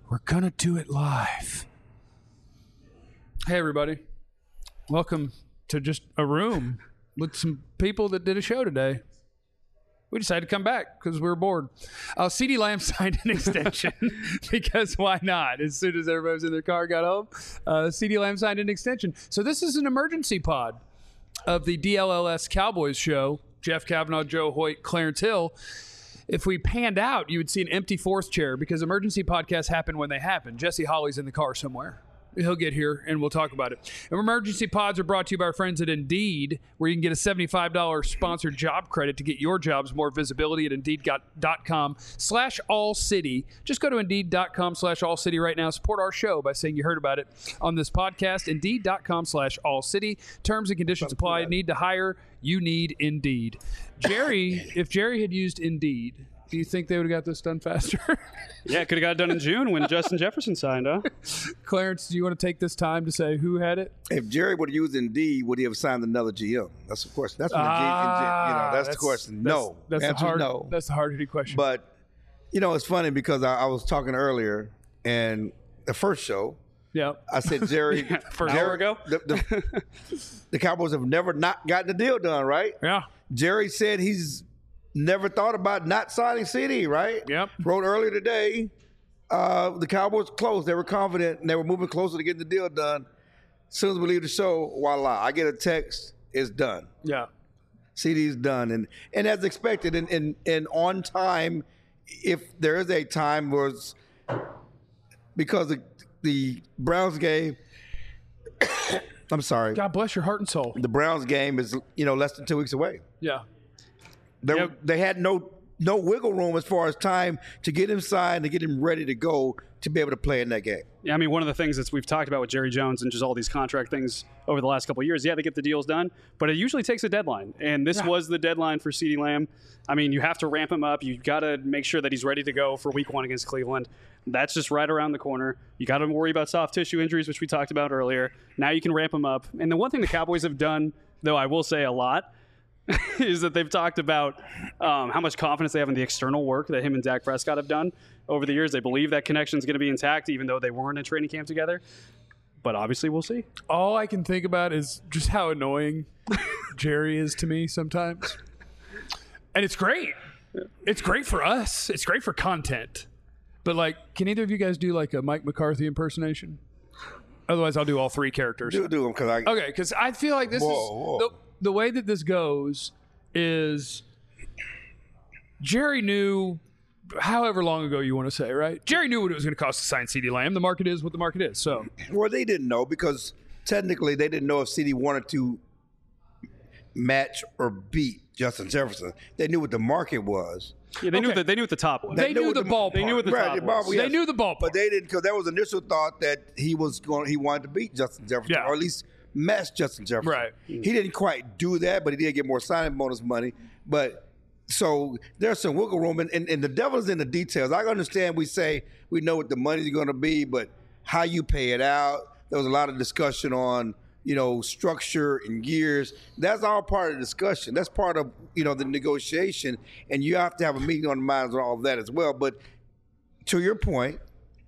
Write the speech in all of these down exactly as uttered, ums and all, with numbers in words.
We're gonna do it live. Hey, everybody. Welcome to just a room with some people that did a show today. We decided to come back because we were bored. Uh, CeeDee Lamb signed an extension because why not? As soon as everybody was in their car, got home, uh, CeeDee Lamb signed an extension. So this is an emergency pod of the D L L S Cowboys show. Jeff Kavanaugh, Joe Hoyt, Clarence Hill. If we panned out, you would see an empty fourth chair because emergency podcasts happen when they happen. Jesse Holly's in the car somewhere. He'll get here, and we'll talk about it. And emergency pods are brought to you by our friends at Indeed, where you can get a seventy-five dollars sponsored job credit to get your jobs more visibility at Indeed.com slash All City. Just go to Indeed.com slash All City right now. Support our show by saying you heard about it on this podcast. Indeed.com slash All City. Terms and conditions apply. Need to hire. You need Indeed. Jerry, if Jerry had used Indeed, do you think they would have got this done faster? Yeah, could have got it done in June when Justin Jefferson signed, huh? Clarence, do you want to take this time to say who had it? If Jerry would have used Indeed, would he have signed another G M? That's the question. That's what ah, you know. That's, that's the question. That's, no, that's the answer hard, is no. That's the hard-hitting question. But you know, it's funny because I, I was talking earlier, and the first show, yeah, I said Jerry, yeah, Jerry, an hour ago, the, the, the Cowboys have never not gotten the deal done, right? Yeah. Jerry said he's never thought about not signing CeeDee, right? Yep. Wrote earlier today, uh, the Cowboys close. They were confident, and they were moving closer to getting the deal done. As soon as we leave the show, voila, I get a text, it's done. Yeah. CeeDee's done. And and as expected, and, and, and on time, if there is a time, was because the, the Browns game, I'm sorry. God bless your heart and soul. The Browns game is, you know, less than two weeks away. Yeah. They, Yep. they had no no wiggle room as far as time to get him signed, to get him ready to go to be able to play in that game. Yeah, I mean, one of the things that we've talked about with Jerry Jones and just all these contract things over the last couple of years, yeah, they get the deals done, but it usually takes a deadline. And this Yeah. was the deadline for CeeDee Lamb. I mean, you have to ramp him up. You've got to make sure that he's ready to go for week one against Cleveland. That's just right around the corner. You got to worry about soft tissue injuries, which we talked about earlier. Now you can ramp him up. And the one thing the Cowboys have done, though I will say a lot, is that they've talked about um, how much confidence they have in the external work that him and Dak Prescott have done over the years. They believe that connection is going to be intact, even though they weren't in training camp together. But obviously, we'll see. All I can think about is just how annoying Jerry is to me sometimes. And it's great. It's great for us. It's great for content. But, like, can either of you guys do, like, a Mike McCarthy impersonation? Otherwise, I'll do all three characters. Do do them because I. Okay, because I feel like this Whoa, is whoa. The, the way that this goes is Jerry knew, however long ago you want to say, right? Jerry knew what it was going to cost to sign CeeDee Lamb. The market is what the market is. So, Well, they didn't know because technically they didn't know if CeeDee wanted to match or beat Justin Jefferson. They knew what the market was. Yeah, they knew Okay. that they knew what the top was. they knew knew what the the- ballpark. They knew what the Right, top the ball- was. yes. They knew the ballpark. But they didn't because there was initial thought that he was going. He wanted to beat Justin Jefferson, Yeah. or at least match Justin Jefferson. Right. He didn't quite do that, but he did get more signing bonus money. But so there's some wiggle room, and, and, and the devil's in the details. I understand we say we know what the money's going to be, but how you pay it out. There was a lot of discussion on, you know, structure and gears. That's all part of the discussion. That's part of, you know, the negotiation, and you have to have a meeting on the minds on all of that as well. But to your point,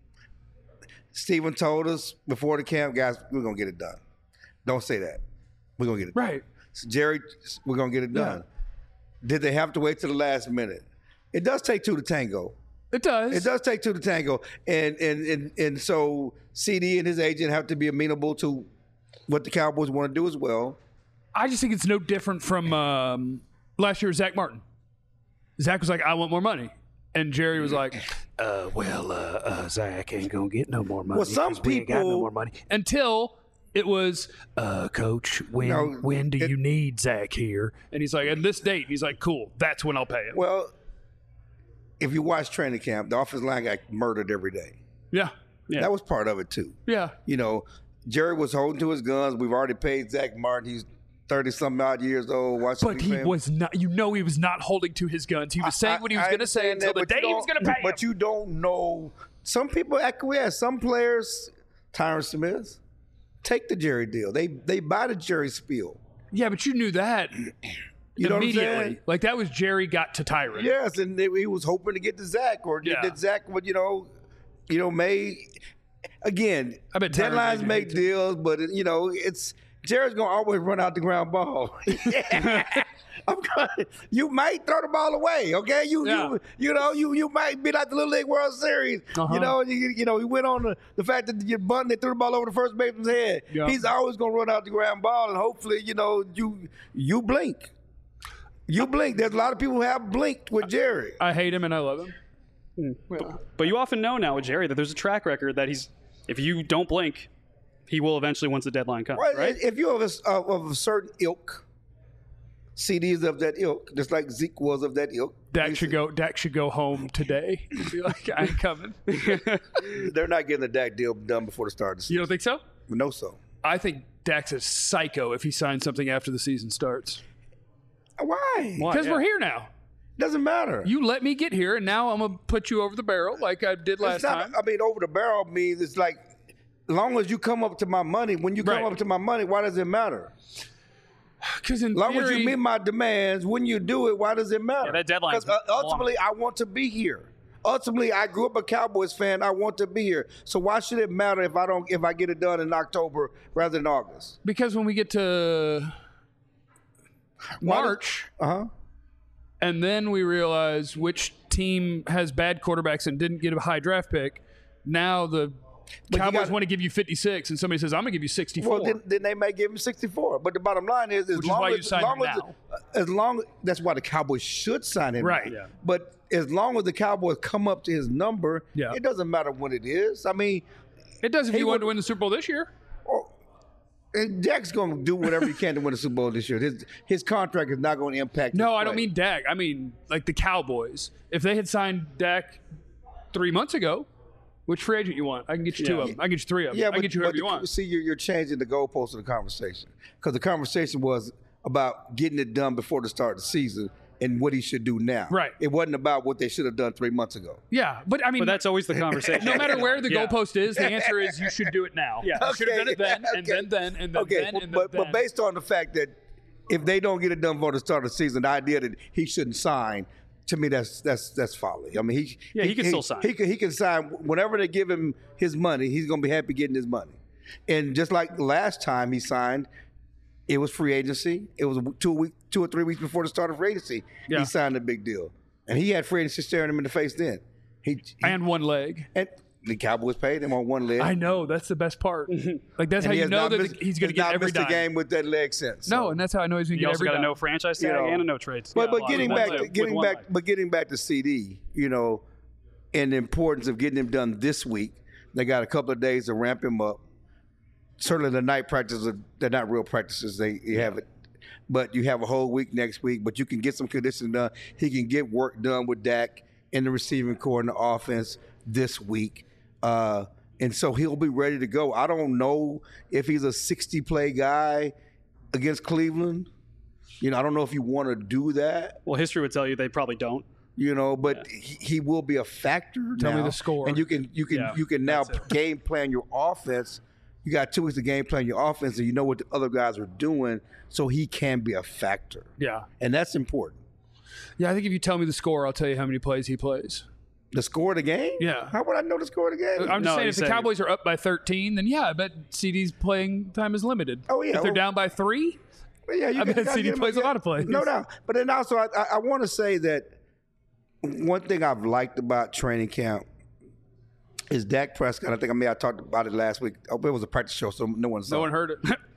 Stephen told us before the camp, guys, we're going to get it done. Don't say that. We're going to get it done. Right. So Jerry, we're going to get it done. Did they have to wait till the last minute? It does take two to tango. It does. It does take two to tango. And and and, and so CeeDee and his agent have to be amenable to what the Cowboys want to do as well. I just think it's no different from um, last year, Zach Martin. Zach was like, I want more money. And Jerry was like, uh, well, uh, uh, Zach ain't going to get no more money. Well, some 'cause we ain't got no people- more money. Until it was, uh, Coach, when No, when do it- you need Zach here? And he's like, at this date. He's like, cool, that's when I'll pay him. Well, if you watch training camp, the offensive line got murdered every day. Yeah. Yeah. That was part of it too. Yeah. You know, Jerry was holding to his guns. We've already paid Zach Martin. He's thirty-something odd years old. Watch But he was not, you know, he was not holding to his guns. He was saying what he was going to say until the day he was going to pay him. But you don't know. Some people acquiesce. Some players, Tyron Smith, take the Jerry deal. They they buy the Jerry spiel. Yeah, but you knew that You know what I'm immediately. saying? Like, that was Jerry got to Tyron. Yes, and they, he was hoping to get to Zach, or Yeah. that Zach would, you know, you know, made again. I bet Tyron deadlines Matthew make hates it. deals, but you know, it's Jared's gonna always run out the ground ball. I'm gonna, you might throw the ball away, okay? You Yeah. you you know you you might be like the Little League World Series. Uh-huh. You know you, you know he went on the, the fact that you bunting and threw the ball over the first baseman's head. Yeah. He's always gonna run out the ground ball, and hopefully you know you you blink. You blink. There's a lot of people who have blinked with Jerry. I hate him and I love him. But you often know now with Jerry that there's a track record that he's, if you don't blink, he will eventually once the deadline comes, Right? right? If you're of a, of of a certain ilk, C D's of that ilk, just like Zeke was of that ilk. Dak should go. Dak should go home today. Be like, I ain't coming. They're not getting the Dak deal done before the start of the You season. don't think so? No, so. I think Dak's a psycho if he signs something after the season starts. Why? Why? Because Yeah. we're here now. Doesn't matter. You let me get here, and now I'm gonna put you over the barrel like I did last It's not, time. I mean, over the barrel means it's like, as long as you come up to my money, when you come Right. up to my money, why does it matter? Because in As long as theory, you meet my demands, when you do it, why does it matter? Yeah, that deadline's 'Cause, uh, ultimately, I want to be here. Ultimately, I grew up a Cowboys fan. I want to be here. So why should it matter if I don't if I get it done in October rather than August? because when we get to March, Uh huh. and then we realize which team has bad quarterbacks and didn't get a high draft pick. Now the you Cowboys gotta- want to give you fifty-six, and somebody says, "I'm gonna give you sixty-four." Well, then, then they may give him sixty-four. But the bottom line is, as Which is long why as, you signed as long him as, now. as long that's why the Cowboys should sign him. Right. now. Yeah. But as long as the Cowboys come up to his number, Yeah. it doesn't matter when it is. I mean, it does if He you wanted would- to win the Super Bowl this year. oh, and Dak's going to do whatever he can to win the Super Bowl this year. His his contract is not going to impact. No, his I don't play. mean Dak. I mean like the Cowboys. If they had signed Dak three months ago, which free agent you want? I can get you two Yeah. of them. I can get you three of them. Yeah, I but, can get you whoever but you the- want. see, you're, you're changing the goalpost of the conversation because the conversation was about getting it done before the start of the season and what he should do now. Right. It wasn't about what they should have done three months ago. Yeah, but I mean, But that's always the conversation. no matter where the Yeah. goalpost is, the answer is you should do it now. Yeah. You should have done it then, and Okay. then then, and then Okay, then, and then but then. but based on the fact that if they don't get it done before the start of the season, the idea that he shouldn't sign, to me, that's that's that's folly. I mean, he Yeah, he can still sign. He can he can sign whenever they give him his money. He's going to be happy getting his money. And just like last time he signed, it was free agency. It was two week, two or three weeks before the start of free agency. Yeah. He signed a big deal, and he had free agency staring him in the face then. He, he and one leg. and the Cowboys paid him on one leg. I know that's the best part. Like that's how And he you has know not that missed- the, he's going to has get not every missed dime. a game with that leg since. No, so. and that's how I know he's going to You get also every got a dime. no franchise tag know. and a no trade. But Yeah, but a lot getting of back them to, with getting one back leg. but getting back to C D, you know, and the importance of getting him done this week. They got a couple of days to ramp him up. Certainly the night practices are, they're not real practices. They you have it, but you have a whole week next week. But you can get some conditioning done. He can get work done with Dak in the receiving core and the offense this week. Uh, and so he'll be ready to go. I don't know if he's a sixty play guy against Cleveland. You know, I don't know if you want to do that. Well, history would tell you they probably don't. You know, but he, he will be a factor. Tell me now. the score. and you can you can Yeah, you can now that's it. game plan your offense. You got two weeks to game plan your offense, and you know what the other guys are doing, so he can be a factor, Yeah, and that's important. yeah. I think if you tell me the score, I'll tell you how many plays he plays. The score of the game? Yeah. How would I know the score of the game? I'm just No, saying, you if the said- Cowboys are up by thirteen, then yeah, I bet C D's playing time is limited. Oh, yeah, If they're well- down by three, But yeah, you I got- bet gotta C D get him- plays a lot of plays. No doubt. But then also, I, I, I want to say that one thing I've liked about training camp is Dak Prescott. I think I may have talked about it last week. Oh, it was a practice show, so no one saw no it. one heard it.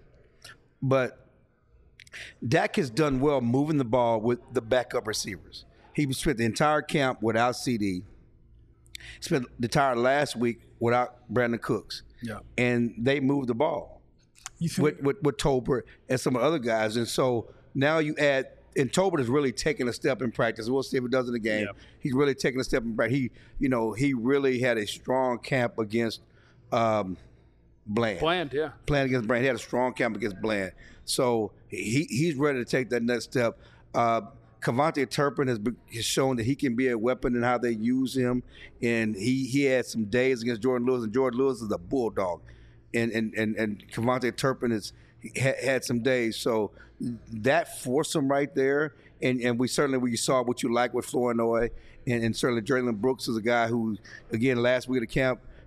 But Dak has done well moving the ball with the backup receivers. He spent the entire camp without C D. Spent the entire last week without Brandon Cooks. Yeah. And they moved the ball You think, with, with, with Tolbert and some other guys. And so now you add, and Tolbert is really taking a step in practice. We'll see if it does in the game. Yep. He's really taking a step in practice. He, you know, he really had a strong camp against um, Bland. Bland, yeah. Playing against Bland. He had a strong camp against Bland. So he he's ready to take that next step. Uh, Cavante Turpin has, be, has shown that he can be a weapon in how they use him. And he, he had some days against Jordan Lewis, and Jordan Lewis is a bulldog. And and and, and Cavante Turpin has ha, had some days. So that foursome right there, and, and we certainly we saw what you like with Flournoy, and, and certainly Jalen Brooks is a guy who, again, last week at the camp,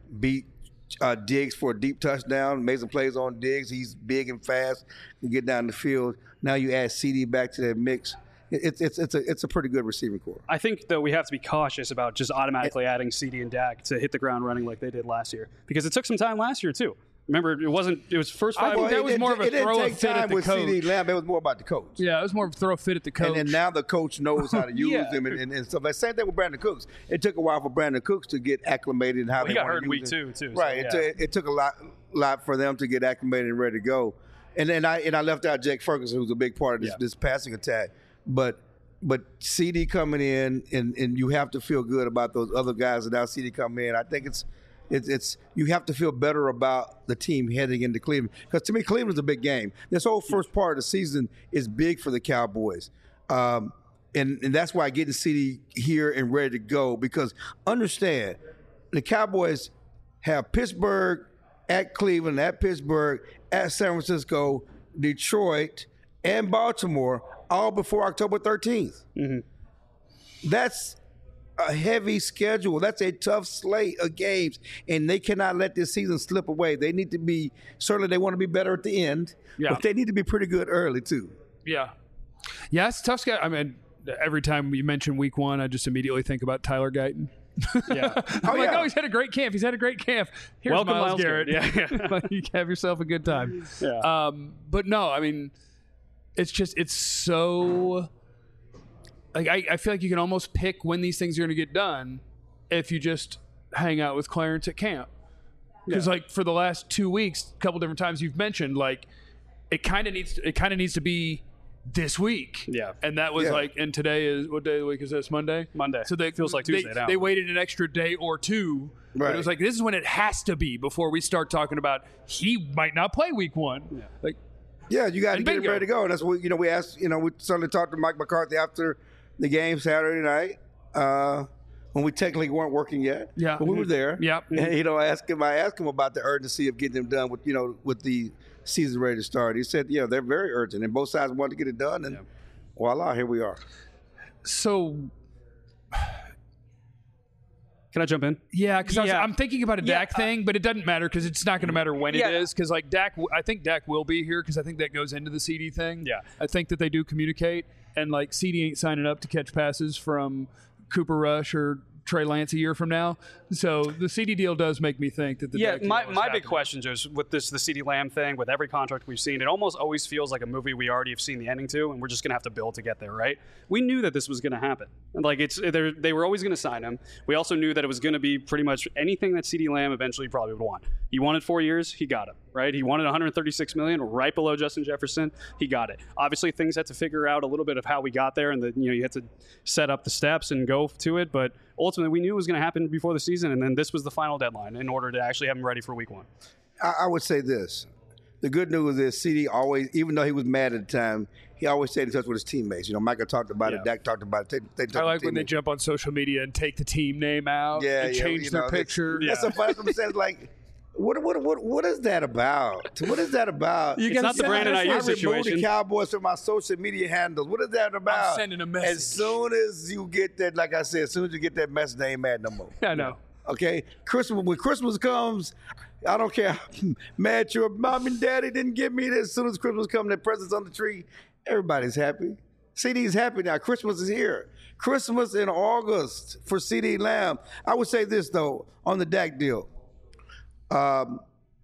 beat uh, Diggs for a deep touchdown, made some plays on Diggs. He's big and fast, can get down the field. Now you add C D back to that mix. It's it's it's a it's a pretty good receiving core. I think though we have to be cautious about just automatically adding C D and Dak to hit the ground running like they did last year, because it took some time last year too. Remember, it wasn't. It was first five. I think that it, was it, more of a it throw didn't a take fit time at the with coach. C D Lamb. It was more about the coach. Yeah, it was more of a throw a fit at the coach. And then now the coach knows how to use Yeah. them and, and, and stuff. Like same thing with Brandon Cooks. It took a while for Brandon Cooks to get acclimated and how Well, he they got want hurt to in week use two it. too. so, Right. yeah. It, took, it took a lot lot for them to get acclimated and ready to go. And then I and I left out Jake Ferguson, who's a big part of this, Yeah. this passing attack. But but C D coming in and, and you have to feel good about those other guys that now C D come in. I think it's It's, it's you have to feel better about the team heading into Cleveland, because to me Cleveland's a big game. This whole first part of the season is big for the Cowboys, um, and and that's why getting C D here and ready to go. Because understand, the Cowboys have Pittsburgh at Cleveland, at Pittsburgh, at San Francisco, Detroit, and Baltimore, all before October thirteenth. Mm-hmm. That's a heavy schedule. That's a tough slate of games, and they cannot let this season slip away. They need to be, certainly they want to be better at the end, Yeah. but they need to be pretty good early too. Yeah. Yeah, it's a tough schedule. I mean, every time you mention week one, I just immediately think about Tyler Guyton. Yeah. I'm Oh, like, yeah. oh, he's had a great camp. He's had a great camp. Here's Welcome, Myles, Myles Garrett. Garrett. Yeah, yeah. You have yourself a good time. Yeah. Um, but no, I mean, it's just, it's so, like, I, I feel like you can almost pick when these things are going to get done if you just hang out with Clarence at camp. Because, Yeah. like, for the last two weeks, a couple different times you've mentioned, like, it kind of needs, it kind of needs to be this week. Yeah. And that was Yeah. like, and today is, what day of the week is this? Monday? Monday. So they Feels like they- Tuesday now. They waited an extra day or two. But Right. it was like, this is when it has to be before we start talking about he might not play week one. Yeah. Like, Yeah, you got to And get it bingo. ready to go. And that's what, you know, we asked, you know, we certainly talked to Mike McCarthy after the game Saturday night, uh, when we technically weren't working yet. Yeah. But we were there. Yep. And, you know, I asked him, I asked him about the urgency of getting them done with, you know, with the season ready to start. He said, yeah, they're very urgent, and both sides want to get it done. And Yeah. voila, here we are. so, Can I jump in? yeah, because Yeah. I'm thinking about a Yeah, Dak thing, but it doesn't matter because it's not going to matter when Yeah. it is. Because, like, Dak, I think Dak will be here because I think that goes into the C D thing. Yeah. I think that they do communicate. And, like, C D ain't signing up to catch passes from Cooper Rush or Trey Lance a year from now. So the C D deal does make me think that the Yeah, Dak deal my, is my big happening. question is with this the CeeDee Lamb thing, with every contract we've seen, it almost always feels like a movie we already have seen the ending to, and we're just gonna have to build to get there, right? We knew that this was gonna happen. And like it's they're- they were always gonna sign him. We also knew that it was gonna be pretty much anything that CeeDee Lamb eventually probably would want. He wanted four years, he got it, right? He wanted one hundred thirty-six million, right below Justin Jefferson, he got it. Obviously, things had to figure out a little bit of how we got there, and the, you know you had to set up the steps and go to it, but ultimately we knew it was gonna happen before the season, and then this was the final deadline in order to actually have him ready for week one. I, I would say this. The good news is C D always, even though he was mad at the time, he always stayed in touch with his teammates. You know, Michael talked about Yeah. it, Dak talked about it. They, they I like when they jump on social media and take the team name out yeah, and yeah, change you their know, that's- picture. Yeah. That's so funny. That's what I'm saying. Like, what, what, what, what is that about? What is that about? It's not the Brandon I Ayuk removed situation. the Cowboys from my social media handles. What is that about? sending a message. As soon as you get that, like I said, as soon as you get that message, they ain't mad no more. I know. Okay, Christmas when Christmas comes, I don't care how mad your mom and daddy didn't give me this. As soon as Christmas comes, the presents on the tree, everybody's happy. C D's happy now. Christmas is here. Christmas in August for C D Lamb. I would say this though on the Dak deal. Um,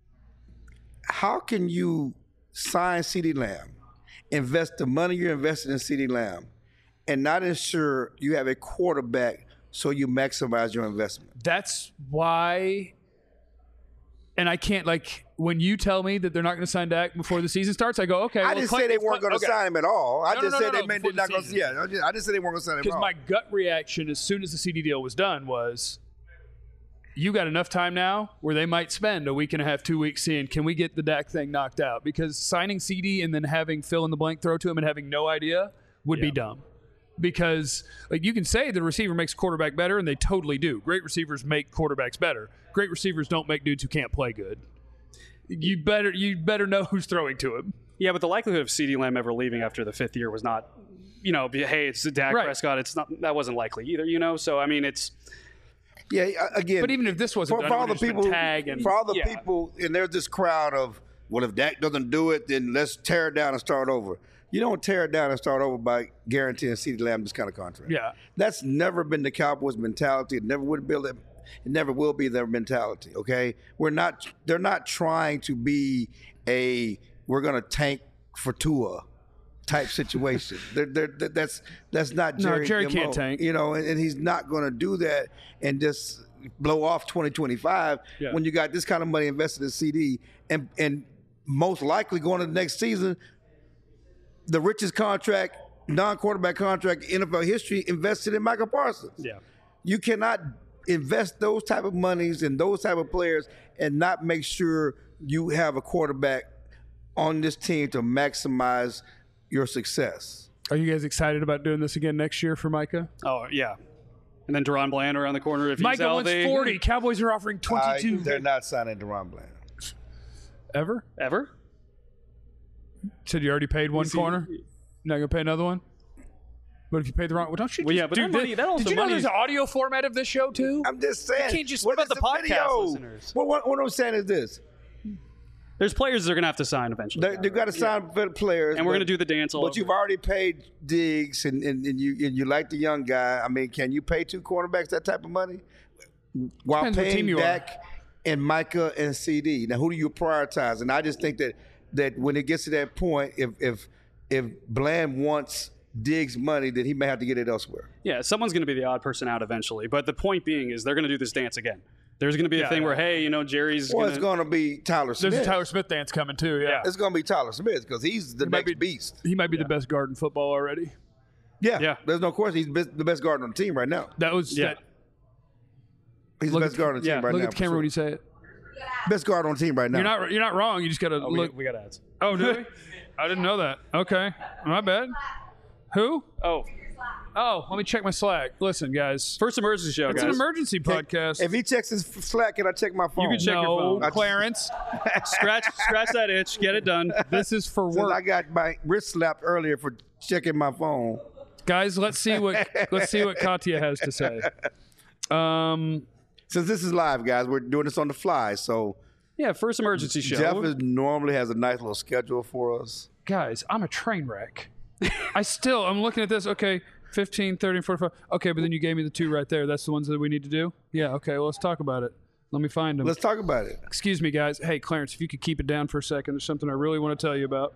how can you sign C D Lamb, invest the money you're investing in C D Lamb, and not ensure you have a quarterback so you maximize your investment? That's why. And I can't, like, when you tell me that they're not going to sign Dak before the season starts, I go, okay. I well, didn't Clint- say they weren't going to okay. sign him at all. I No, just no, no, said no, they meant before they're not the going to. season. Yeah, I, just, I didn't say they weren't going to sign him at Because all. my gut reaction as soon as the C D deal was done was, you got enough time now where they might spend a week and a half, two weeks seeing, can we get the Dak thing knocked out? Because signing C D and then having fill in the blank throw to him and having no idea would be Yeah. dumb. Because, like, you can say the receiver makes quarterback better, and they totally do. Great receivers make quarterbacks better. Great receivers don't make dudes who can't play good. You better you better know who's throwing to him. Yeah, but the likelihood of CeeDee Lamb ever leaving after the fifth year was not, you know, be- hey, it's Dak Right. Prescott. It's not that wasn't likely either, you know. So I mean, it's Yeah, again. But even if this wasn't for, done, for it all the would've just been people, tag and for all the yeah. people, and there's this crowd of, well, if Dak doesn't do it, then let's tear it down and start over. You don't tear it down and start over by guaranteeing CeeDee Lamb this kind of contract. Yeah. That's never been the Cowboys' mentality. It never would be. It never will be their mentality. Okay, we're not. They're not trying to be a we're going to tank for Tua type situation. they're, they're, that's that's not Jerry. No, Jerry M O, can't tank. You know, and, and he's not going to do that and just blow off twenty twenty-five Yeah. when you got this kind of money invested in C D and and most likely going to the next season. The richest contract, non-quarterback contract in N F L history invested in Michael Parsons. Yeah. You cannot invest those type of monies in those type of players and not make sure you have a quarterback on this team to maximize your success. Are you guys excited about doing this again next year for Micah? Oh, yeah. And then Deron Bland around the corner. If he's Micah wants healthy. forty. Cowboys are offering twenty-two. I, they're not signing DeRon Bland. Ever? Ever? Said you already paid one see- corner? You're not going to pay another one? But if you pay the wrong, well, don't you? Well, just yeah, but do that this- money- that also Did you know money- there's an audio format of this show too? I'm just saying. can't just- what what about is the podcast video? listeners? What, what, what I'm saying is this: There's players that are going to have to sign eventually. they, they've got to sign for the players, And we're but- gonna do the dance all But over. you've already paid Diggs, and, and, and you and you like the young guy. I mean, can you pay two cornerbacks that type of money while Depends what team paying you are. Dak and Micah and C D? Now, who do you prioritize? And I just think that that when it gets to that point, if if if Bland wants Diggs money, then he may have to get it elsewhere. Yeah, someone's going to be the odd person out eventually. But the point being is they're going to do this dance again. There's going to be a Yeah, thing yeah. where, hey, you know, Jerry's Well, going it's going to be Tyler Smith. There's a Tyler Smith dance coming too. Yeah, Yeah. It's going to be Tyler Smith because he's the might next be- beast. he might be the best guard in football already. Yeah, Yeah. There's no question. He's best, the best guard on the team right now. That was Yeah. that. He's Look the best at- guard on the yeah, team right Look now. at the camera when you say it. Best guard on the team right now. You're not. You're not wrong. You just got to Oh, we, look. we got ads. Oh, do we? I didn't know that. Okay, my bad. Who? Oh, Oh, let me check my Slack. Listen, guys, first emergency show, it's guys. an emergency podcast. If he checks his Slack, can I check my phone? can check your no, phone. Clarence, scratch, scratch that itch. Get it done. this is for Since I work, got my wrist slapped earlier for checking my phone. guys. Let's see what let's see what Katya has to say. Um, Since this is live, guys, we're doing this on the fly. So Yeah, first emergency show. Jeff is normally has a nice little schedule for us. guys, I'm a train wreck. I still, I'm looking at this. Okay, fifteen, thirty, forty-five. Okay, but then you gave me the two right there. That's the ones that we need to do? Yeah, okay, well, let's talk about it. Let me find them. Let's talk about it. Excuse me, guys. Hey, Clarence, if you could keep it down for a second, there's something I really want to tell you about.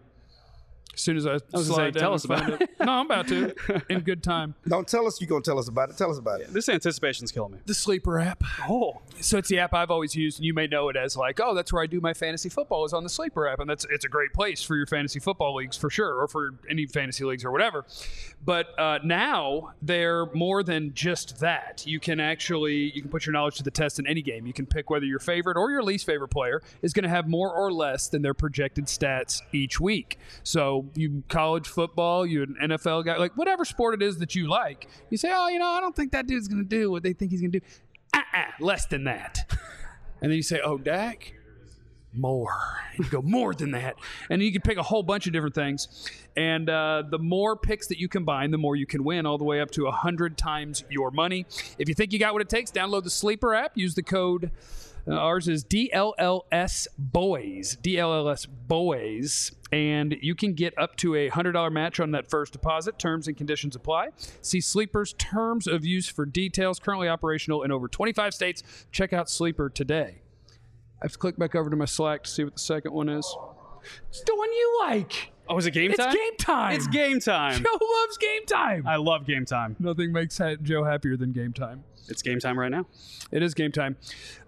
As soon as I, was gonna slide say, down tell and us about find it. No, I'm about to. In good time. Don't tell us you're going to tell us about it. Tell us about it. This anticipation's killing me. The Sleeper app. Oh, So it's the app I've always used, and you may know it as like, oh, that's where I do my fantasy football is on the Sleeper app, and that's it's a great place for your fantasy football leagues for sure, or for any fantasy leagues or whatever. But uh, now they're more than just that. You can actually you can put your knowledge to the test in any game. You can pick whether your favorite or your least favorite player is going to have more or less than their projected stats each week. So you college football, you an N F L guy, like whatever sport it is that you like, you say, oh, you know, I don't think that dude's going to do what they think he's going to do. Uh-uh, less than that. And then you say, oh, Dak, more. And you go, more than that. And you can pick a whole bunch of different things. And uh, the more picks that you combine, the more you can win, all the way up to one hundred times your money. If you think you got what it takes, download the Sleeper app. Use the code. Uh, ours is D L L S Boys. D L L S Boys. And you can get up to a one hundred dollars match on that first deposit. Terms and conditions apply. See Sleeper's terms of use for details. Currently operational in over twenty-five states. Check out Sleeper today. I have to click back over to my Slack to see what the second one is. It's the one you like. oh, is it game It's time? game time. It's game time. Joe loves game time. I love game time. Nothing makes ha- Joe happier than game time. It's game time right now. It is game time.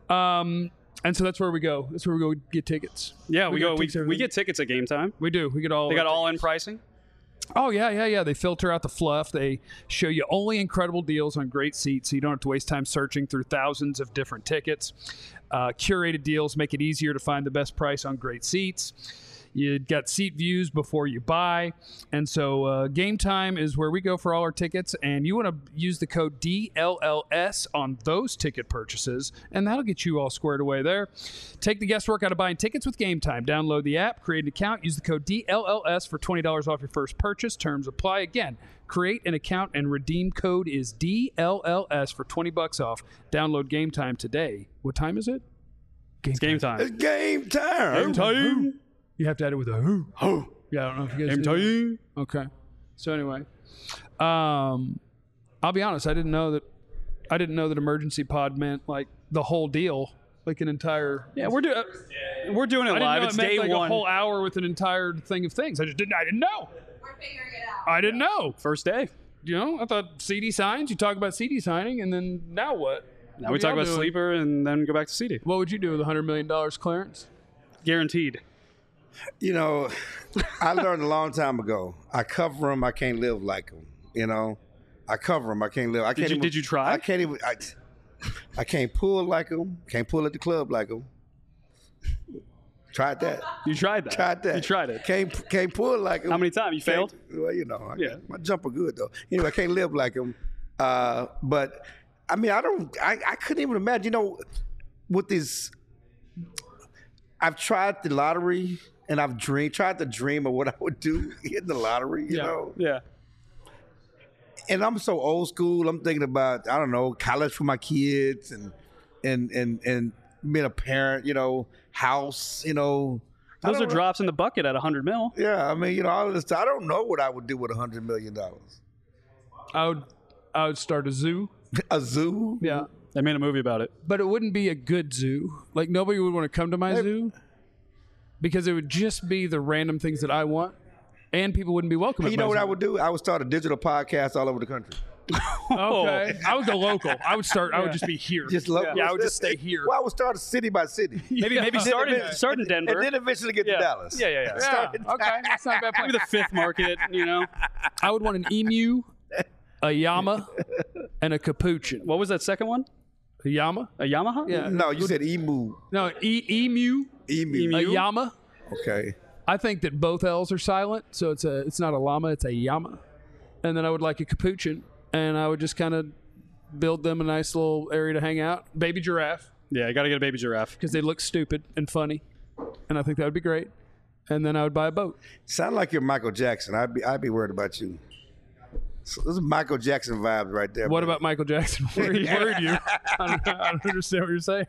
Um, and so that's where we go. That's where we go get tickets. Yeah, we, got go. We, tickets, we everything. get tickets at game time. We do. We get all. They got our all in tickets. pricing. Oh yeah, yeah, yeah. They filter out the fluff. They show you only incredible deals on great seats, so you don't have to waste time searching through thousands of different tickets. Uh, curated deals make it easier to find the best price on great seats. You got seat views before you buy. And so uh, Game Time is where we go for all our tickets. And you want to use the code D L L S on those ticket purchases, and that'll get you all squared away there. Take the guesswork out of buying tickets with Game Time. Download the app, create an account, use the code D L L S for twenty dollars off your first purchase. Terms apply. Again, create an account and redeem code is D L L S for twenty bucks off. Download Game Time today. What time is it? Game It's game time. It's game time. Game time. You have to add it with a who. Oh, Yeah, I don't know if you guys game do that. time. Okay. So anyway, um, I'll be honest. I didn't know that. I didn't know that emergency pod meant like the whole deal, like an entire. Yeah, we're doing we're doing it I didn't live. know It's it meant day like one. a whole hour with an entire thing of things. I just didn't. I didn't know. We're figuring it out. I didn't know. First day. You know, I thought C D signs. You talk about C D signing, and then now what? Now What we are talk y'all about doing? Sleeper and then go back to C D. What would you do with a hundred million dollars clearance? Guaranteed. You know, I learned a long time ago. I cover them. I can't live like them. You know, I cover them. I can't live. I can't you- even, did you try? I can't even. I, I can't pull like them. Can't pull at the club like them. Tried that. You tried that. Tried that. You tried it. Can't can't pull like them. How many times? You failed? Well, you know, I, Yeah. my jumper good though. Anyway, I can't live like him. Uh, but I mean, I don't. I, I couldn't even imagine. You know, with these, I've tried the lottery and I've dreamed, tried to dream of what I would do in the lottery. You Yeah. know, Yeah. and I'm so old school. I'm thinking about I don't know college for my kids and and and and being a parent. You know, house. You know. I Those are don't know. drops in the bucket at one hundred mil. Yeah, I mean, you know, all of this. I don't know what I would do with a hundred million dollars. I would. I would start a zoo. A zoo. Yeah. They made a movie about it. But it wouldn't be a good zoo. Like nobody would want to come to my zoo because it would just be the random things that I want, and people wouldn't be welcome. Hey, at you my know what zoo. I would do? I would start a digital podcast all over the country. Okay, I would go local. I would start. I would just be here. Just local. Yeah, I would just stay here. Well, I would start city by city. Maybe maybe start in, start in Denver. And then eventually get yeah. to Dallas. Yeah, yeah, yeah. Yeah, Start in okay, that's not a bad plan. Maybe the fifth market, you know. I would want an emu, a llama, and a capuchin. What was that second one? A llama? A Yamaha? Yeah. No, you said emu. No, e- emu, Emu. a Emu? llama. Okay. I think that both L's are silent, so it's a it's not a llama, it's a llama. And then I would like a capuchin, and I would just kind of build them a nice little area to hang out. Baby giraffe, Yeah, you got to get a baby giraffe. because they look stupid and funny, and I think that would be great. And then I would buy a boat. Sound like you're Michael Jackson. I'd be I'd be worried about you. So those are Michael Jackson vibes right there. What man. about Michael Jackson? Worried, worried you? I don't, I don't understand what you're saying.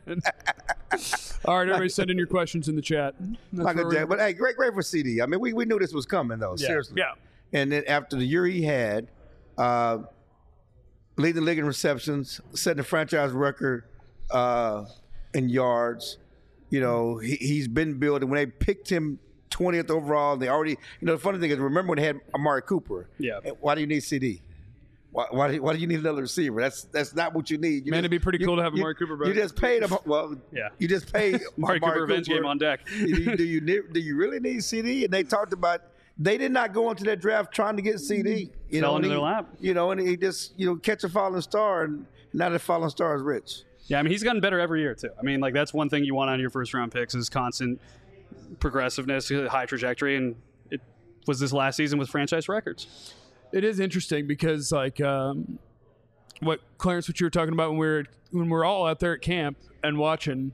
All right, everybody, send in your questions in the chat. That's where Michael we're- Jackson? But hey, great, great for C D. I mean, we, we knew this was coming though. Seriously. Yeah. And then after the year he had, uh, leading the league in receptions, setting the franchise record uh, in yards. You know, he, he's been building. When they picked him twentieth overall, they already, you know, the funny thing is, remember when they had Amari Cooper? Yeah. Why do you need C D? Why, why, do, you, why do you need another receiver? That's that's not what you need. You Man, just- it'd be pretty you- cool to have you- Amari Cooper back. You just paid him. Well, Yeah. You just paid Amari Cooper revenge game on deck. do, you, do you ne- do you really need C D? And they talked about they did not go into that draft trying to get C D. You Fell know, and into he- their lap. You know, and he just you know catch a falling star, and now the falling star is rich. Yeah, I mean, he's gotten better every year, too. I mean, like, that's one thing you want out of your first round picks is constant progressiveness, high trajectory, and it was this last season with franchise records. It is interesting because, like, um, what Clarence, what you were talking about when we were when we're all out there at camp and watching.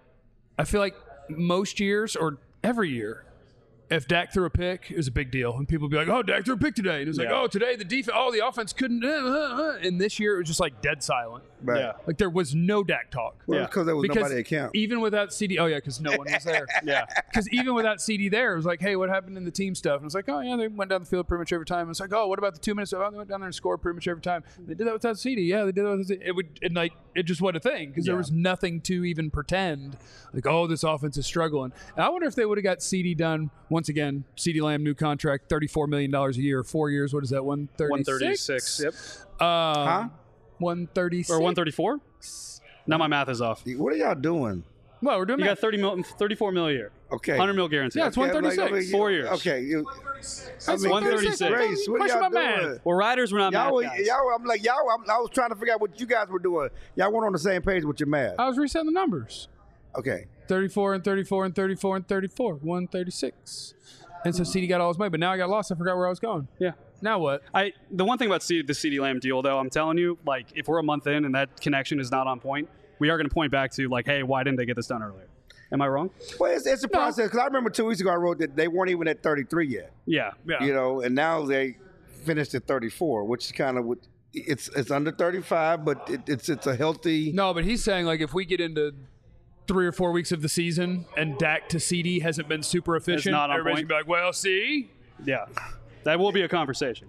I feel like most years or every year, if Dak threw a pick, it was a big deal, and people would be like, "Oh, Dak threw a pick today," and it's like, Yeah. "Oh, today the defense, oh, the offense couldn't." Uh, uh, uh. And this year it was just like dead silent. Right. Yeah. Like there was no Dak talk. Well, Yeah. because there was Because nobody at camp. even without C D, oh yeah, because no one was there. Yeah. Because even without C D there, it was like, hey, what happened in the team stuff? And it was like, oh yeah, they went down the field pretty much every time. It's like, oh, what about the two minutes? Oh, they went down there and scored pretty much every time. They did that without C D. Yeah, they did that without C D. It would, and like, it just wasn't a thing because there Yeah. was nothing to even pretend. Like, oh, this offense is struggling. And I wonder if they would have got C D done once again. C D Lamb, new contract, thirty-four million dollars a year, four years. What is that? one thirty-six. one thirty-six. Yep. Um, Huh? one thirty-six. Or one thirty-four? Now my math is off. You What are y'all doing? Well, we're doing got that. thirty mil, thirty-four mil a year. Okay. one hundred mil guaranteed. Yeah, it's Okay, one I'm like, thirty-six. I mean, Four years. Okay. You, I That's mean, one thirty-six. goodness grace, what are Question y'all about doing? math. Well, riders were not Y'all, math guys. y'all, I'm like y'all. I'm, I was trying to figure out what you guys were doing. Y'all weren't on the same page with your math. I was resetting the numbers. Okay. thirty-four and thirty-four and thirty-four and thirty-four. one thirty-six. And so C D got all his money, but now I got lost. I forgot where I was going. Yeah. Now what? I the one thing about C, the CeeDee Lamb deal, though, I'm telling you, like, if we're a month in and that connection is not on point, we are going to point back to, like, hey, why didn't they get this done earlier? Am I wrong? Well, it's, it's a No. process because I remember two weeks ago I wrote that they weren't even at thirty-three yet. Yeah. Yeah. You know, and now they finished at thirty-four, which is kind of what it's it's under thirty-five, but it, it's it's a healthy. No, but he's saying, like, if we get into three or four weeks of the season and Dak to C D hasn't been super efficient, not on everybody's point. going to be like, well, see? Yeah. That will be a conversation.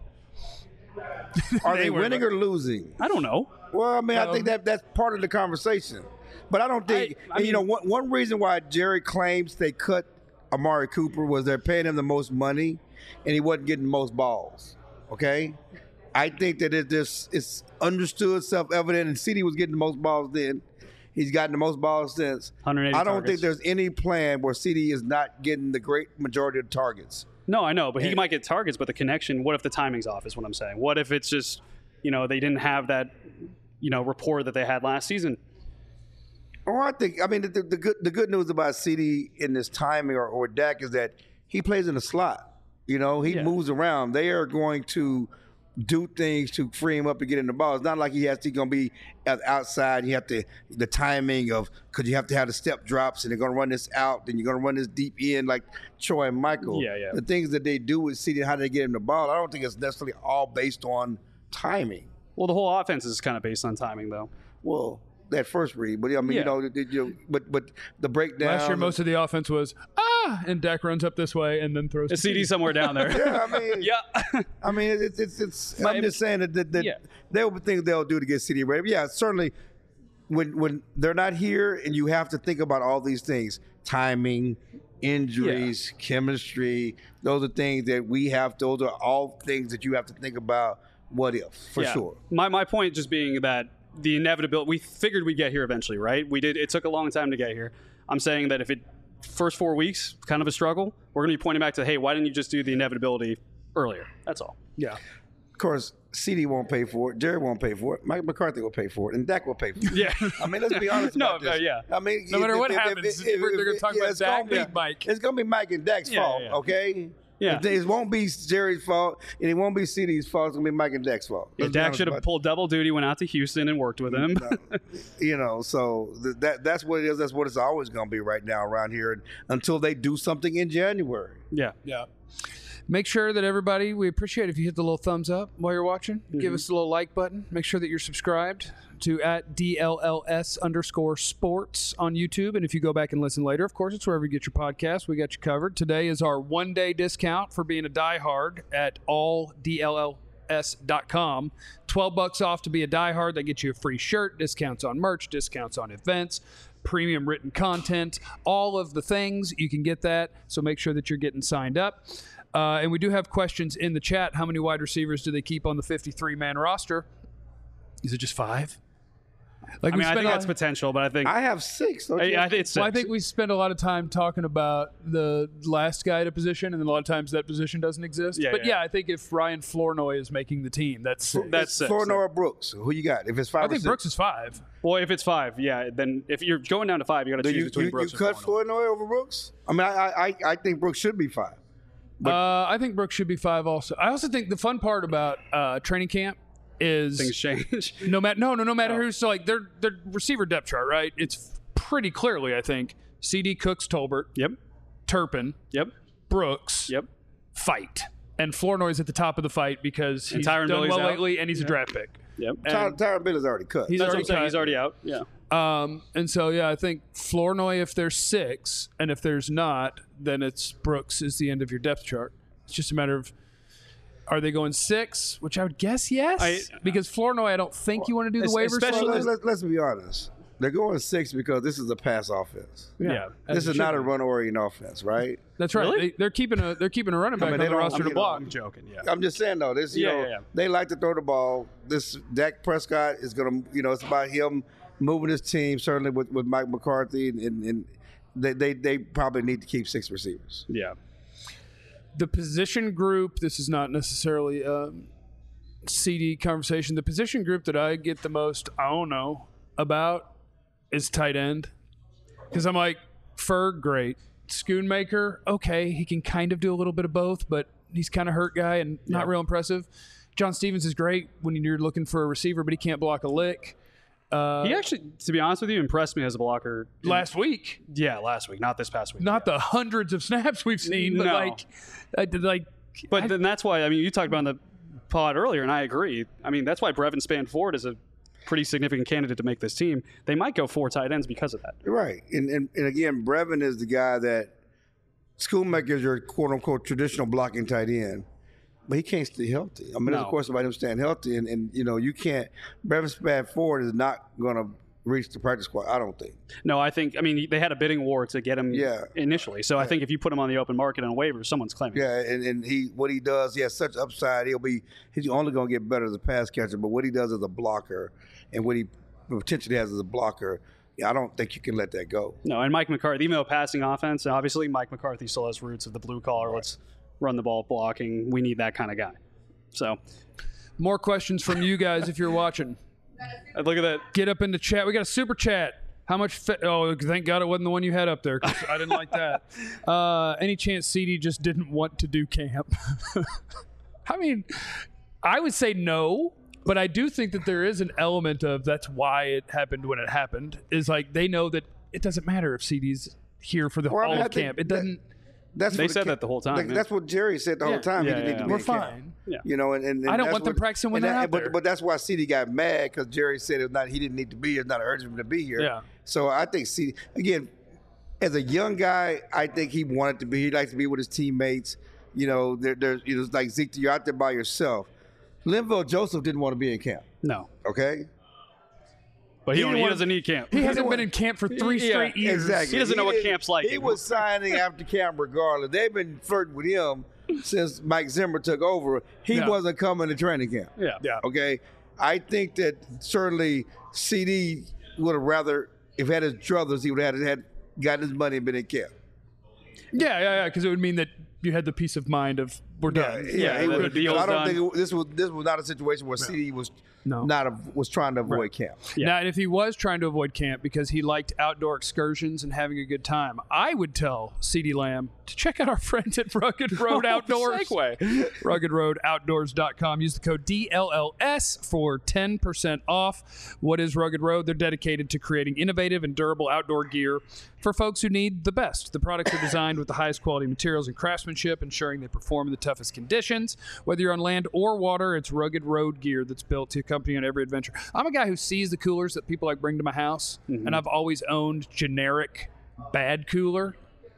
Are they were- winning or losing? I don't know. Well, I mean, I Um, think that that's part of the conversation. But I don't think, I- I and, you know, mean- one, one reason why Jerry claims they cut Amari Cooper was they're paying him the most money and he wasn't getting the most balls. Okay? I think that it just it's understood, self-evident, and C D was getting the most balls then. He's gotten the most balls since. one hundred eighty I don't targets. think there's any plan where C D is not getting the great majority of the targets. No, I know, but he might get targets, but the connection, what if the timing's off is what I'm saying? What if it's just, you know, they didn't have that, you know, rapport that they had last season? Oh, I think. I mean, the, the good the good news about C D in this timing or, or Dak is that he plays in the slot. You know, he Yeah. moves around. They are going to do things to free him up to get in the ball. It's not like he has to going to be at outside. You have to the timing of because you have to have the step drops and they're going to run this out. Then you're going to run this deep in like Troy and Michael. Yeah, yeah. The things that they do with C D and how they get him the ball. I don't think it's necessarily all based on timing. Well, the whole offense is kind of based on timing, though. Well, that first read, but I mean, Yeah. you know, the- the- you know, but but the breakdown. Last year, most of the offense was, ah, and Dak runs up this way and then throws A to C D somewhere down there. Yeah, I mean, yeah. I mean, it's it's. it's But I'm it- just saying that, that, that Yeah. there will be things they'll do to get C D ready. But yeah, certainly, when when they're not here, and you have to think about all these things: timing, injuries, chemistry. Those are things that we have. Those are all things that you have to think about. What if, for Yeah. sure. My my point just being that the inevitability, we figured we'd get here eventually, right? We did. It took a long time to get here. I'm saying that if it first four weeks kind of a struggle, we're going to be pointing back to, hey, why didn't you just do the inevitability earlier? That's all. Yeah. Of course, C D won't pay for it. Jerry won't pay for it. Mike McCarthy will pay for it, and Dak will pay for it. Yeah. I mean, let's be honest No, about this. uh, yeah. I mean, No matter if- what if- if- happens, if- they're if- gonna talk yeah, about it's Dak gonna be- and Mike. It's gonna be Mike and Dak's Yeah, fault, yeah. okay? Yeah. It, it won't be Jerry's fault, and it won't be C D's fault. It's gonna be Mike and Dak's fault. Yeah, Let's be Dak honest should have about pulled double duty, went out to Houston and worked with him. it. You know, so th- that that's what it is. That's what it's always gonna be right now around here until they do something in January. yeah. Yeah. Make sure that everybody, we appreciate if you hit the little thumbs up while you're watching. Give us a little like button. Make sure that you're subscribed to at D L L S underscore sports on YouTube. And if you go back and listen later, of course, it's wherever you get your podcast. We got you covered. Today is our one day discount for being a diehard at all D L L S dot com. twelve bucks off to be a diehard. That gets you a free shirt, discounts on merch, discounts on events, premium written content, all of the things. You can get that. So make sure that you're getting signed up. Uh, and we do have questions in the chat. How many wide receivers do they keep on the fifty-three man roster? Is it just five? Like I mean, I spend think a- that's potential, but I think I have six. Don't I, you? I think it's well, I six. think we spend a lot of time talking about the last guy at a position, and then a lot of times that position doesn't exist. Yeah, but yeah. yeah, I think if Ryan Flournoy is making the team, that's six. That's six. Flournoy or Brooks. Who you got? If it's five I or think six. Brooks is five. Well, if it's five, yeah, then if you're going down to five, you got to Do choose you, between you, Brooks you cut and Flournoy. Flournoy over Brooks? I mean, I, I I think Brooks should be five. But- uh, I think Brooks should be five also. I also think the fun part about uh, training camp is Things change. no matter no no no matter Oh. who's so like their their receiver depth chart, right? It's pretty clearly, I think, C D, Cooks, Tolbert, Yep. Turpin, Yep. Brooks, Yep. fight, and Flournoy's at the top of the fight because And he's Tyron done Billy's well out. lately and he's a draft pick. Yep. Ty- And- Tyron Billy's already cut. He's That's what already I'm saying. cut. He's already out. Yeah. Um, and so yeah, I think Flournoy if there's six, and if there's not, then it's Brooks is the end of your depth chart. It's just a matter of are they going six, which I would guess yes, I- because Flournoy I don't think you want to do the Es- waivers. especially- Well, let's, let's, let's be honest. They're going six because this is a pass offense. Yeah. as This it is should not a be. run-oriented offense, right? That's right. Really? They, they're keeping a they're keeping a running back mean, on they the don't- roster I to mean, block. I'm joking. Yeah. I'm just saying though, this you Yeah, know yeah, yeah. they like to throw the ball. This Dak Prescott is gonna, you know, it's about him moving his team. Certainly with, with Mike McCarthy, and, and, and they, they they probably need to keep six receivers. Yeah. The position group. This is not necessarily a C D conversation. The position group that I get the most I don't know about is tight end. Because I'm like, Ferg, great. Schoonmaker, okay. He can kind of do a little bit of both, but he's kind of hurt guy and not Yeah. real impressive. John Stevens is great when you're looking for a receiver, but he can't block a lick. Uh, He actually, to be honest with you, impressed me as a blocker. in- last week, yeah, last week, not this past week. not the hundreds of snaps we've seen, but No. like, I did like. But I- then that's why, I mean, you talked about in the pod earlier, and I agree. I mean, that's why Brevin Spann-Ford is a pretty significant candidate to make this team. They might go four tight ends because of that. Right. And, and, and again, Brevin is the guy that Schoonmaker is your quote unquote traditional blocking tight end. But he can't stay healthy. I mean, there's No. a question about him staying healthy, and, and you know, you can't. Brevin Spann-Ford is not going to reach the practice squad, I don't think. No, I think, I mean, they had a bidding war to get him Yeah. initially. So I think if you put him on the open market on waivers, someone's claiming. Yeah, and, and he what he does, he has such upside. He'll be he's only going to get better as a pass catcher. But what he does as a blocker, and what he potentially has as a blocker, yeah, I don't think you can let that go. No, and Mike McCarthy, even though passing offense, obviously Mike McCarthy still has roots of the blue collar. Let's run the ball blocking. We need that kind of guy. So More questions from you guys if you're watching. uh, look at that. Get up in the chat. We got a super chat. How much? Fa- oh, thank God it wasn't the one you had up there. 'Cause I didn't like that. Uh, any chance C D just didn't want to do camp? I mean, I would say no, but I do think that there is an element of that's why it happened when it happened. Is like they know that it doesn't matter if C D's here for the Well, I all mean, I of think camp. It that- doesn't. That's They what said ca- that the whole time, like, yeah. That's what Jerry said the Yeah. whole time. Yeah, he didn't yeah, need to yeah. be We're in camp. fine. Yeah. You know, and, and, and I don't that's want them what- practicing when and they're that- out but, there. But that's why C D got mad because Jerry said it was not. He didn't need to be here. It's not urgent for him to be here. Yeah. So I think C D again, as a young guy, I think he wanted to be. He likes to be with his teammates. You know, there, there's you know, it's like Zeke, you're out there by yourself. Linville Joseph didn't want to be in camp. No. Okay. But he, He don't- didn't he want- doesn't need camp. He hasn't don't been want- in camp for three Yeah, straight years. Exactly. He doesn't know what didn't- camp's like He anymore. was signing after camp regardless. They've been flirting with him since Mike Zimmer took over. He Yeah. wasn't coming to training camp. Yeah. Yeah. Okay. I think that certainly C D would have rather, if he had his druthers, he would have had, had gotten his money and been in camp. Yeah, yeah, yeah. Because it would mean that you had the peace of mind of we're done. Yeah, he the- would- the deal's I don't done. think it, this was this was not a situation where C D was No. not a, was trying to avoid camp. Yeah. Now, and if he was trying to avoid camp because he liked outdoor excursions and having a good time, I would tell CeeDee Lamb to check out our friends at Rugged Road Outdoors. Segue. rugged road outdoors dot com. Use the code D L L S for ten percent off. What is Rugged Road? They're dedicated to creating innovative and durable outdoor gear for folks who need the best. The products are designed with the highest quality materials and craftsmanship, ensuring they perform in the toughest conditions. Whether you're on land or water, it's Rugged Road gear that's built to accompany you on every adventure. I'm a guy who sees the coolers that people like bring to my house, and I've always owned generic bad cooler.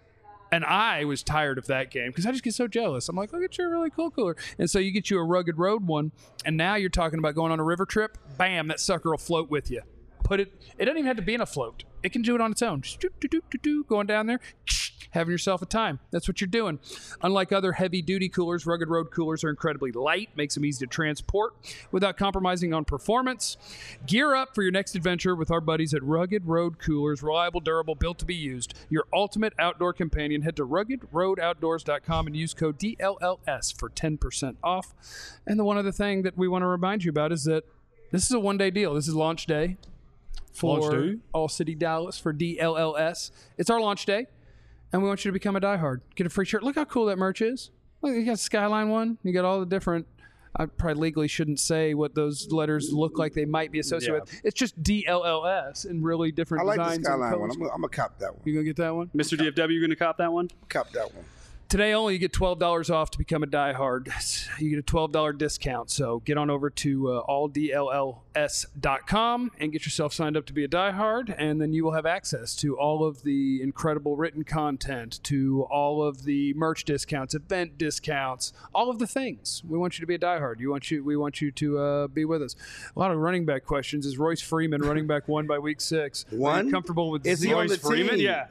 And I was tired of that game because I just get so jealous. I'm like, look at your really cool cooler. And so you get you a Rugged Road one, and now you're talking about going on a river trip. Bam, that sucker will float with you. Put it, it doesn't even have to be in a float. It can do it on its own. Just do, do, do, do, do, going down there, having yourself a time. That's what you're doing. Unlike other heavy-duty coolers, Rugged Road coolers are incredibly light, makes them easy to transport without compromising on performance. Gear up for your next adventure with our buddies at Rugged Road Coolers. Reliable, durable, built to be used. Your ultimate outdoor companion. Head to rugged road outdoors dot com and use code D L L S for ten percent off. And the one other thing that we want to remind you about is that this is a one-day deal. This is launch day for Launch day? All City Dallas for D L L S. It's our launch day. And we want you to become a diehard. Get a free shirt. Look how cool that merch is. Look, you got Skyline one. You got all the different. I probably legally shouldn't say what those letters look like they might be associated Yeah. with. It's just D L L S in really different I like the designs. and Skyline one. colors. I'm gonna, I'm gonna cop that one. You gonna get that one? Mister D F W, you going to cop that one? Cop that one. Today only, you get twelve dollars off to become a diehard. You get a twelve dollars discount. So get on over to uh, all D L L S dot com and get yourself signed up to be a diehard, and then you will have access to all of the incredible written content, to all of the merch discounts, event discounts, all of the things. We want you to be a diehard. You want you. We want you to uh, be with us. A lot of running back questions. Is Royce Freeman running back one by week six? Are you One? comfortable with Is he Zeke? on the Royce Freeman? team? Yeah.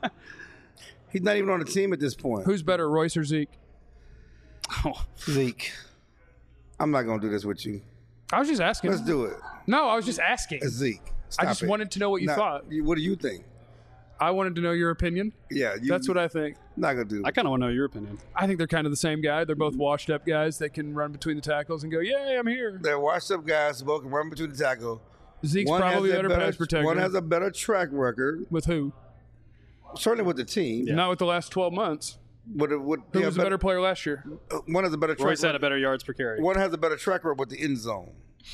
He's not even on the team at this point. Who's better, Royce or Zeke? Oh, Zeke? I'm not gonna do this with you. I was just asking. Let's do it. No, I was just asking. It's Zeke. Stop I just it. wanted to know what you Now, thought. you- What do you think? I wanted to know your opinion. Yeah, you, That's what I think. not gonna do. I kind of want to know your opinion. I think they're kind of the same guy. They're both washed up guys that can run between the tackles and go, "Yay, I'm here." They're washed up guys who both can run between the tackle. Zeke's One probably has a better, pass protector. One has a better track record. With who? certainly with the team. Yeah. Not with the last twelve months. But it would, Who yeah, was a better player last year? One has a better track Royce had record. a better yards per carry. One has a better track record with the end zone.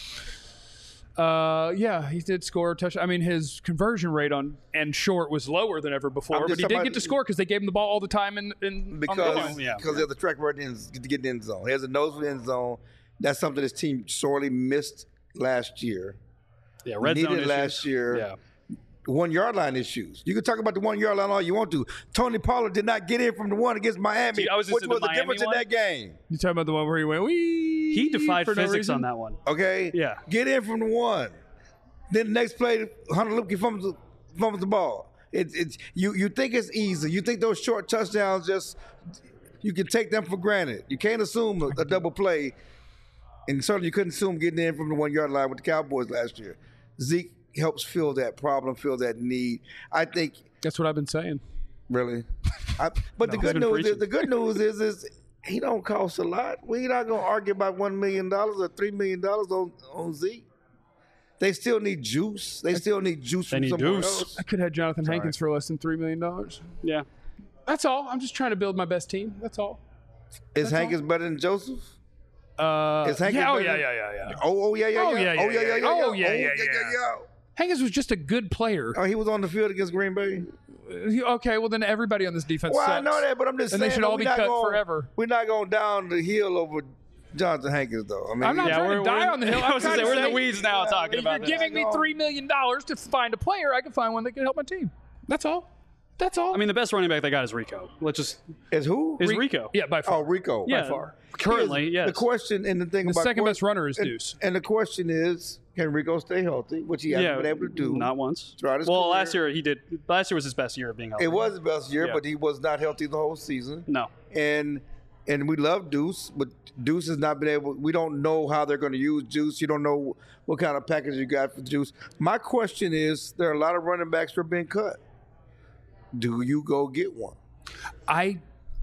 Uh, yeah, he did score a touchdown. I mean, his conversion rate on and short was lower than ever before, I'm but just he talking did about- get to score because they gave him the ball all the time in, in on the Because goal. yeah. because he has the track record in, to get in the end zone. He has a nose for the end zone. That's something this team sorely missed last year. Yeah, red Needed zone issues. last year. Yeah. One yard line issues. You can talk about the one yard line all you want to. Tony Pollard did not get in from the one against Miami, See, I was just which in the was the Miami difference one. in that game. You talking about the one where he went? Wee He defied for no physics reason? on that one. Okay? Yeah. Get in from the one. Then the next play, Hunter Luepke fumbles, fumbles the ball. It's it's you you think it's easy. You think those short touchdowns just you can take them for granted. You can't assume a, a double play, and certainly you couldn't assume getting in from the one yard line with the Cowboys last year. Zeke helps fill that problem, fill that need. I think That's what I've been saying. really, I, but the he's good been news preaching. is the good news is is he don't cost a lot. We're not gonna argue about one million dollars or three million dollars on on Zeke. They still need juice. They still need juice They from need somewhere juice. else. I could have Jonathan Hankins for less than three million dollars. Yeah. That's all. I'm just trying to build my best team. That's all. Is Hankins better than Joseph? Uh, Is Hankins yeah, oh better yeah, than- yeah, yeah, yeah. Oh, oh yeah, yeah, Oh, yeah. yeah, yeah, Oh yeah, yeah, yeah. yeah. Oh, yeah. yeah, yeah, yeah. Hankins was just a good player. Oh, he was on the field against Green Bay. Uh, Okay, well then everybody on this defense Well, sucks. I know that, but I'm just And saying they should though, all we're be not cut going- forever. We're not going down the hill over Jonathan Hankins, though. I mean, I'm not Yeah, trying we're- to die we're- on the hill. I I'm was gonna trying say, to we're in the say, weeds now uh, talking if about you're this. giving me three million dollars to find a player, I can find one that can help my team. That's all. That's all. I mean, the best running back they got is Rico. Let's just is who? is Re- Rico. yeah, by far. Oh, Rico. yeah, By far. Currently, yes. The question and the thing The about second que- best runner is and- Deuce. And the question is, can Rico stay healthy? Which he hasn't yeah, been able to do. Not once. throughout his well, career. last year he did. Last year was his best year of being healthy. It was his best year, Yeah. but he was not healthy the whole season. No. And and we love Deuce, but Deuce has not been able. We don't know how they're going to use Deuce. You don't know what kind of package you got for Deuce. My question is, there are a lot of running backs who are being cut. Do you go get one? I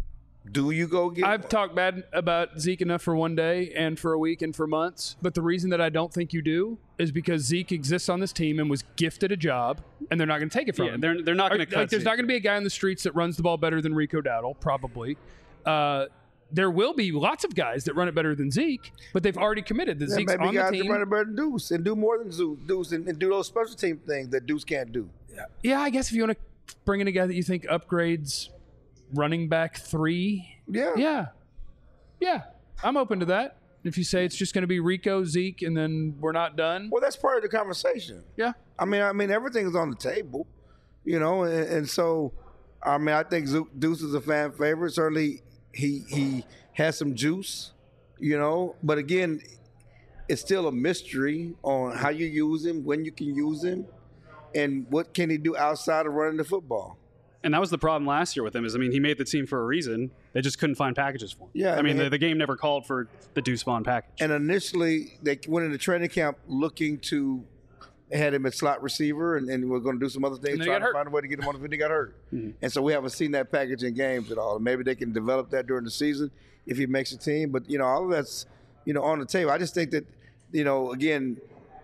Do you go get I've one? talked bad about Zeke enough for one day and for a week and for months, but the reason that I don't think you do is because Zeke exists on this team and was gifted a job, and they're not going to take it from Yeah, him. they're they're not Or, going to cut. like, there's Zeke. not going to be a guy on the streets that runs the ball better than Rico Dowdle, probably. Uh, there will be lots of guys that run it better than Zeke, but they've already committed that Yeah, Zeke's maybe on the guys team. can run it better than Deuce and do more than Zeus- Deuce and, and do those special team things that Deuce can't do. Yeah, I guess if you want to bring in a guy that you think upgrades running back three, Yeah. yeah, yeah, I'm open to that. If you say it's just going to be Rico, Zeke, and then we're not done, Well, that's part of the conversation. yeah. I mean, I mean, everything's on the table, you know, and, and so, I mean, I think Zu- Deuce is a fan favorite. Certainly, he he has some juice, you know, but again, it's still a mystery on how you use him, when you can use him, and what can he do outside of running the football. And that was the problem last year with him. Is I mean, he made the team for a reason. They just couldn't find packages for him. Yeah, I mean, man. the, the game never called for the Deuce Vaughn package. And initially, they went into training camp looking to. They had him at slot receiver, and, and we're going to do some other things, And then he trying got to hurt. find a way to get him on the field. He got hurt, and so we haven't seen that package in games at all. Maybe they can develop that during the season if he makes a team. But you know, all of that's you know on the table. I just think that you know, again,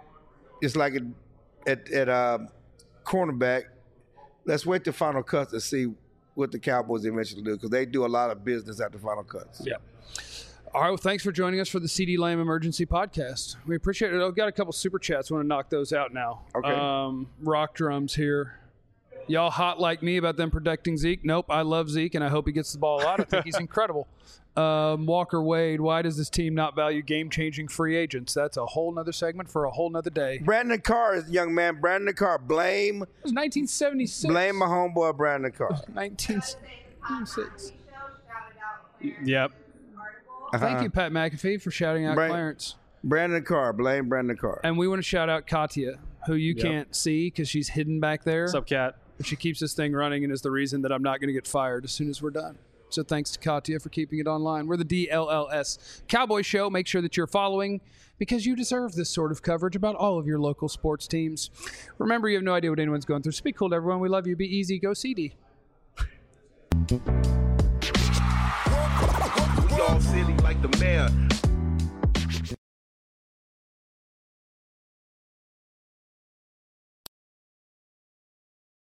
it's like at at, at uh, cornerback. Let's wait the final cuts to see what the Cowboys eventually do, because they do a lot of business at the final cuts. Yeah. All right, well, thanks for joining us for the C D Lamb Emergency Podcast. We appreciate it. I've got a couple super chats. I want to knock those out now. Okay. Um, Rock Drums here. Y'all hot like me about them protecting Zeke? Nope, I love Zeke, and I hope he gets the ball a lot. I think he's incredible. Um, Walker Wade, why does this team not value game-changing free agents? That's a whole nother segment for a whole nother day. It Brandon Carr is young man. Brandon Carr, blame was nineteen seventy-six. blame my homeboy Brandon Carr. nineteen seventy-six. Yep. Thank you, Pat McAfee, for shouting out Brand- Clarence. Brandon Carr, blame Brandon Carr. And we want to shout out Katya, who you Yep. can't see because she's hidden back there. What's up, Cat? But she keeps this thing running and is the reason that I'm not going to get fired as soon as we're done. So thanks to Katya for keeping it online. We're the D L L S Cowboy Show. Make sure that you're following because you deserve this sort of coverage about all of your local sports teams. Remember, you have no idea what anyone's going through. So be cool to everyone. We love you. Be easy. Go C D. We all silly like the mayor.